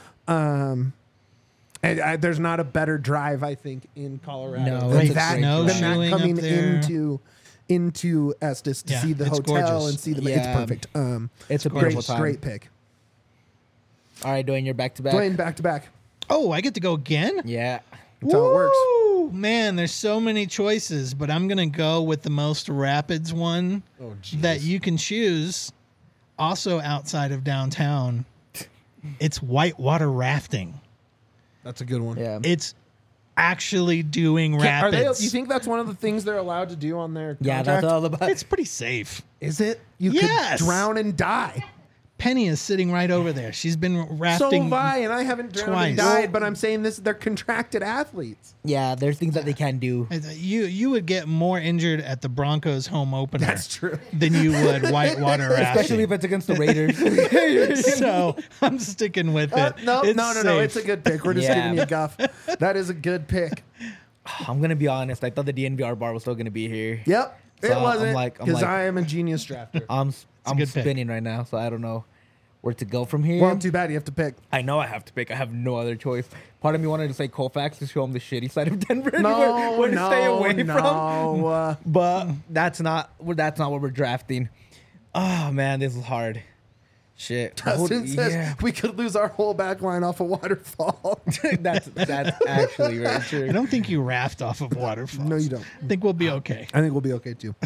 And there's not a better drive, I think, in Colorado No, than it's a that, great than drive. that Snowshoeing coming up there. into Estes to Yeah, see the it's hotel gorgeous. and see the. Yeah. It's perfect. It's a great, beautiful time. great pick. All right, Dwayne, you're back to back. Dwayne, back to back. Oh, I get to go again? Yeah. That's how it works. Woo! Man, there's so many choices, but I'm going to go with the most rapids one Oh, that you can choose. Also outside of downtown, it's whitewater rafting. That's a good one. Yeah. It's actually doing Are they, rapids. you think that's one of the things they're allowed to do on their Yeah, contract? that's all about. It's pretty safe. Is it? You Yes. could drown and die. Penny is sitting right over there. She's been So rafting. have I, and I haven't drowned and twice. died, but I'm saying this, they're contracted athletes. Yeah, there's things that they can do. You would get more injured at the Broncos home opener That's true. than you would whitewater rafting. Especially if it's against the Raiders. So I'm sticking with it. No, It's no. safe. It's a good pick. We're just Yeah. giving you guff. That is a good pick. I'm gonna be honest. I thought the DNVR bar was still gonna be here. Yep. So It I'm wasn't like- I'm because like- I am a genius drafter. I'm a good pick. spinning right now, so I don't know where to go from here. Well, too bad you have to pick. I know I have to pick. I have no other choice. Part of me wanted to say Colfax to show him the shitty side of Denver. No, where to stay away from. no. But that's not what we're drafting. Oh man, this is hard. Shit. Dustin says Yeah. we could lose our whole back line off a waterfall. that's actually very true. I don't think you raft off of waterfalls. No, you don't. I think we'll be okay. I think we'll be okay too.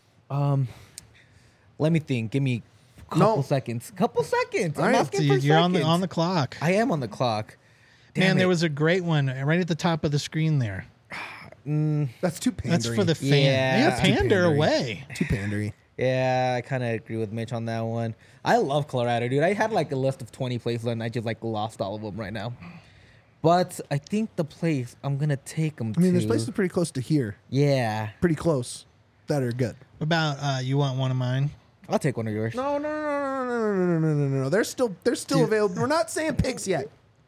Let me think. Give me a No. couple seconds. Couple seconds. I'm All right, asking So for you're seconds. on the clock. I am on the clock. Man, Damn there it. was a great one right at the top of the screen there. That's too pandering. That's for the fan. Yeah. Yeah, That's too pander pandering. away. too pandery. Yeah, I kind of agree with Mitch on that one. I love Colorado, dude. I had like a list of 20 places and I just like lost all of them right now. But I think the place I'm gonna take them I mean, to. there's places pretty close to here, Yeah, pretty close, that are good. About you want one of mine? I'll take one of yours. No. They're still available. We're not saying picks yet.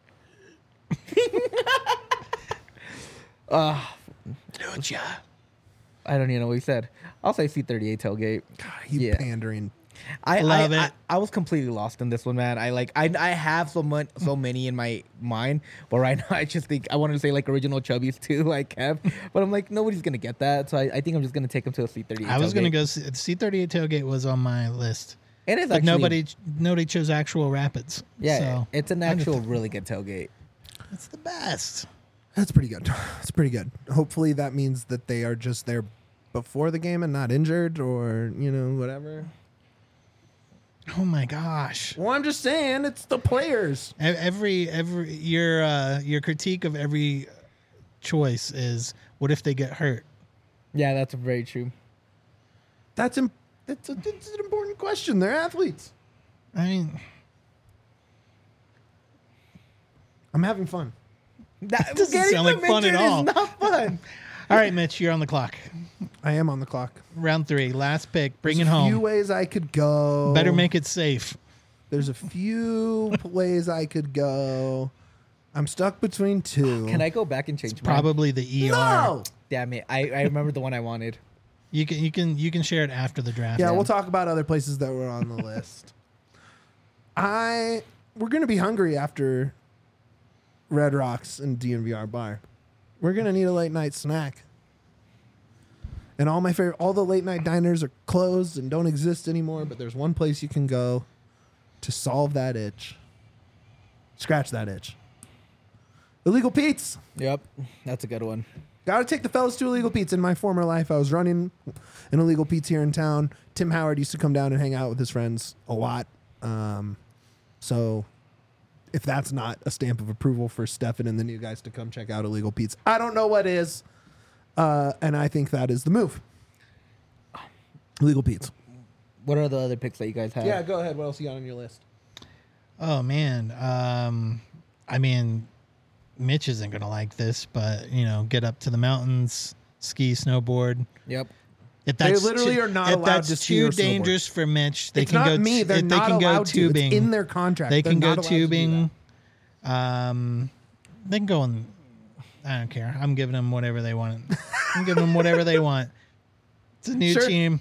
Lucha. I don't even know what he said. I'll say C38 tailgate. God, you Yeah. pandering. I Love it. I was completely lost in this one, man. I have so many in my mind, but right now I just think I wanted to say like original Chubbies too, like Kev, but I'm like nobody's gonna get that, so I think I'm just gonna take him to a C38. I was tailgate. gonna go. C38 tailgate was on my list, It is but actually nobody chose actual Rapids. Yeah, so it's an actual really good tailgate. it's the best. That's pretty good. That's pretty good. Hopefully that means that they are just there before the game and not injured or, whatever. Oh my gosh! Well, I'm just saying it's the players. Every your critique of every choice is what if they get hurt? Yeah, that's very true. It's an important question. They're athletes. I mean, I'm having fun. That doesn't getting sound like them fun at injured is all. not fun. all right, Mitch, you're on the clock. I am on the clock. Round 3, last pick. Bring There's it a few home. ways I could go. Better make it safe. There's a few ways I could go. I'm stuck between two. Can I go back and change mine? Probably the ER. No. Damn it! I remember the one I wanted. You can share it after the draft. Yeah, we'll talk about other places that were on the list. We're gonna be hungry after Red Rocks and DNVR bar. We're gonna need a late night snack. And all the late night diners are closed and don't exist anymore, but there's one place you can go to solve that itch. Scratch that itch. Illegal Pete's. Yep, that's a good one. Got to take the fellas to Illegal Pete's. In my former life, I was running an Illegal Pete's here in town. Tim Howard used to come down and hang out with his friends a lot. So if that's not a stamp of approval for Stefan and the new guys to come check out Illegal Pete's, I don't know what is. And I think that is the move. Illegal Pete's. What are the other picks that you guys have? Yeah, go ahead. What else you got on your list? Oh man. I mean, Mitch isn't gonna like this, but get up to the mountains, ski, snowboard. Yep. If They that's literally too, are not if allowed that's to ski or too snowboard. dangerous for Mitch, they It's can not go. me. They're They not can go allowed to. It's tubing. in their contract. They They're can go not allowed to do tubing. that. They can go in. I don't care. I'm giving them whatever they want. I'm giving them whatever they want. It's a new Sure. team.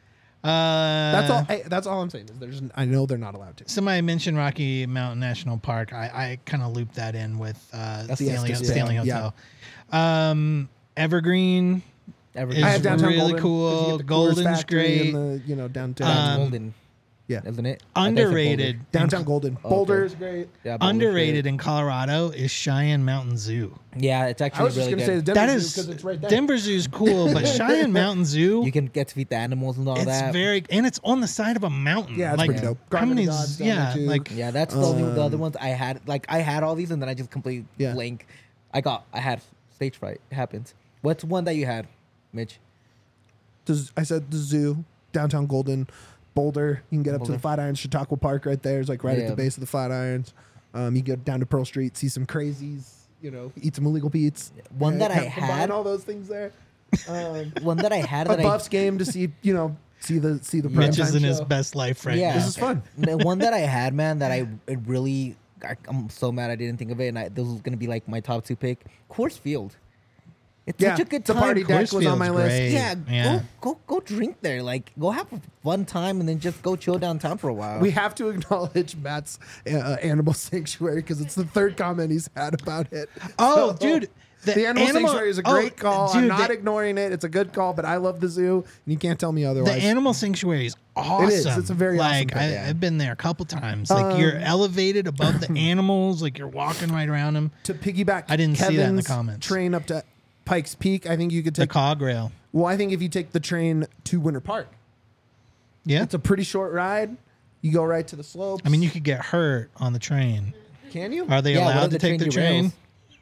That's all I'm saying. Is I know they're not allowed to. Somebody mentioned Rocky Mountain National Park. I kind of looped that in with Stanley Stanley, Hotel. Evergreen Evergreen. I have is downtown really Golden, 'cause you cool. get the Coors Golden's Factory great. and the downtown. That's Golden. Yeah. Isn't it? Underrated. Downtown Golden. Oh, Boulder okay. is great. Yeah, Boulder's Underrated great. in Colorado is Cheyenne Mountain Zoo. Yeah, it's I actually was just really going to say the good. Denver That Zoo is because it's right there. Denver Zoo's cool, but Cheyenne Mountain Zoo. You can get to feed the animals and all It's that. and it's on the side of a mountain. Yeah, it's like, pretty dope. How Garden many? of Gods down there, too. Like Yeah, that's the other ones I had. Like I had all these and then I just completely Yeah. blank. I had stage fright. It happens. What's one that you had, Mitch? I said the zoo, downtown Golden, Boulder. You can get up to Boulder. the Flatirons. Chautauqua Park right there is like right at Yeah. the base of the Flatirons. You go down to Pearl Street, see some crazies. Eat some illegal Pete's. One that I combine had- all those things there. One that I had A that Buffs game to see see the Mitch is primetime in his show. best life right Yeah. now. This is fun. The one that I had, man, that I'm so mad I didn't think of it, and this was gonna be like my top 2 pick. Coors Field. It's Yeah, such a good the time. party deck Coors was on my Field's list. great. Yeah, Yeah. go drink there. Like, go have a fun time, and then just go chill downtown for a while. We have to acknowledge Matt's Animal Sanctuary because it's the third comment he's had about it. Oh, So, dude, the Animal Sanctuary is a great call. Dude, I'm not ignoring it. It's a good call, but I love the zoo, and you can't tell me the otherwise. Animal Sanctuary is awesome. It is. It's a very awesome like place. I've been there a couple times. Like you're elevated above the animals, like you're walking right around them. To piggyback, I didn't see that in the Kevin's comments. train up to Pikes Peak. I think you could The take. cog rail. Well, I think if you take the train to Winter Park, Yeah, it's a pretty short ride. You go right to the slopes. I mean you could get hurt on the train. Can you? Are they Yeah, what allowed if to take the derails? train?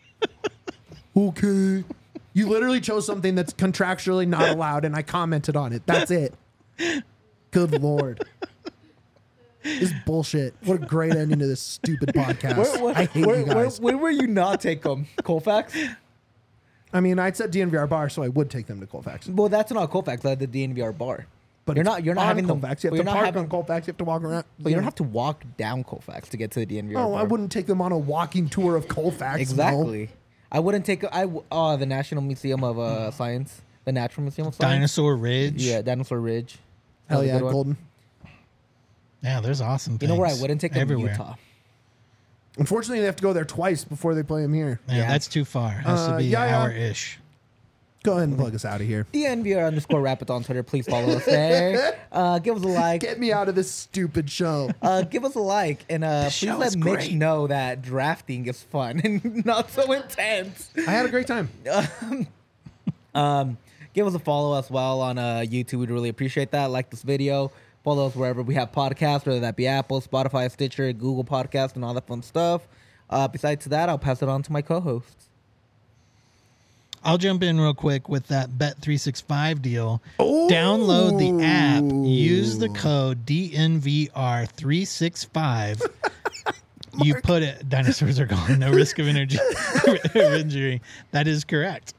Okay. You literally chose something that's contractually not allowed, and I commented on it. That's it. Good Lord. This is bullshit. What a great ending to this stupid podcast. I hate you guys. Where will you not take them? Colfax? I mean, I said DNVR bar, so I would take them to Colfax. Well, that's not Colfax. That's the DNVR bar. But You're it's not on having them. Colfax. You but have you're to not park having, on Colfax. You have to walk around. but you don't have to walk down Colfax to get to the DNVR. Oh, I bar. wouldn't take them on a walking tour of Colfax. no. Exactly. I wouldn't take. The National Museum of Science, the Natural Museum of Science. Dinosaur Ridge. Yeah, Dinosaur Ridge. Hell That was a yeah, good one. Golden. Yeah, there's awesome You things. know where I wouldn't take them? everywhere. Utah. Unfortunately, they have to go there twice before they play them here. Yeah, Yeah. that's too far. Has to be yeah, an yeah. hour-ish. Go ahead and plug us out of here. DNVR_Rapids on Twitter. Please follow us there. Give us a like. Get me out of this stupid show. Give us a like, and please show let is Mitch great. know that drafting is fun and not so intense. I had a great time. Give us a follow as well on YouTube. We'd really appreciate that. Like this video. Follow us wherever we have podcasts, whether that be Apple, Spotify, Stitcher, Google Podcast, and all that fun stuff. Besides that, I'll pass it on to my co-hosts. I'll jump in real quick with that Bet365 deal. Download the app. Use the code DNVR365. You put it. Dinosaurs are gone. No risk of injury. That is correct.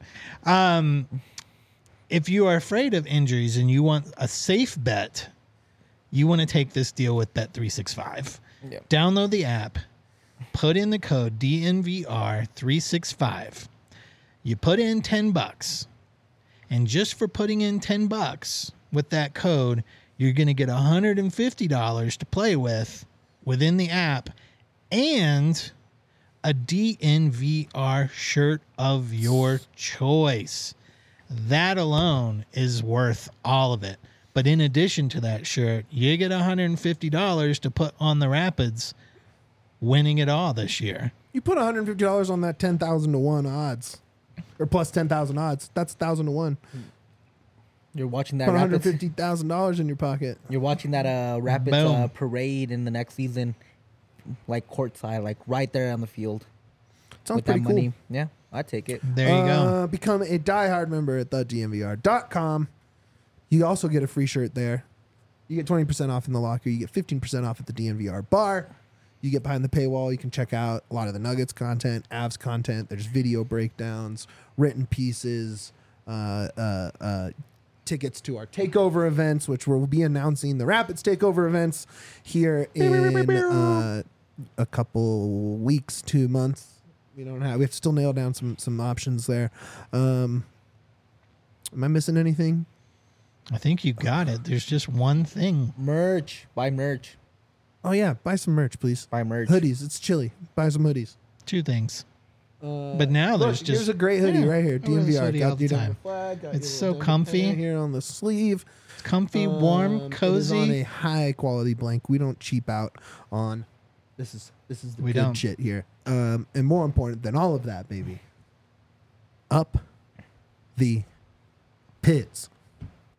If you are afraid of injuries and you want a safe bet, you want to take this deal with Bet365. Yep. Download the app. Put in the code DNVR365. You put in $10, and just for putting in $10 with that code, you're going to get $150 to play with within the app and a DNVR shirt of your choice. That alone is worth all of it. But in addition to that shirt, you get $150 to put on the Rapids winning it all this year. You put $150 on that 10,000 to 1 odds. Or plus 10,000 odds. That's 1,000 to 1. You're watching that Put Rapids. $150,000 in your pocket. You're watching that Rapids Boom. parade in the next season, like courtside, like right there on the field. Sounds with that pretty cool. money. Yeah, I'd take it. There you go. Become a diehard member at thednvr.com. You also get a free shirt there. You get 20% off in the locker. You get 15% off at the DNVR bar. You get behind the paywall. You can check out a lot of the Nuggets content, Avs content. There's video breakdowns, written pieces, tickets to our takeover events, which we'll be announcing the Rapids takeover events here in a couple weeks, 2 months. We have to still nail down some options there. Am I missing anything? I think you got it. There's just one thing. Merch. Buy merch. Oh yeah, buy some merch, please. Buy merch. Hoodies. It's chilly. Buy some hoodies. Two things. But now there's Look, just here's a great hoodie Yeah, right here. I wear this DNVR. hoodie all the your time. flag, got It's your so little comfy. right here on the sleeve. It's comfy, warm, It is on cozy. a high quality blank. We don't cheap out on. This is the We good don't. shit here. And more important than all of that, baby. Up the pits.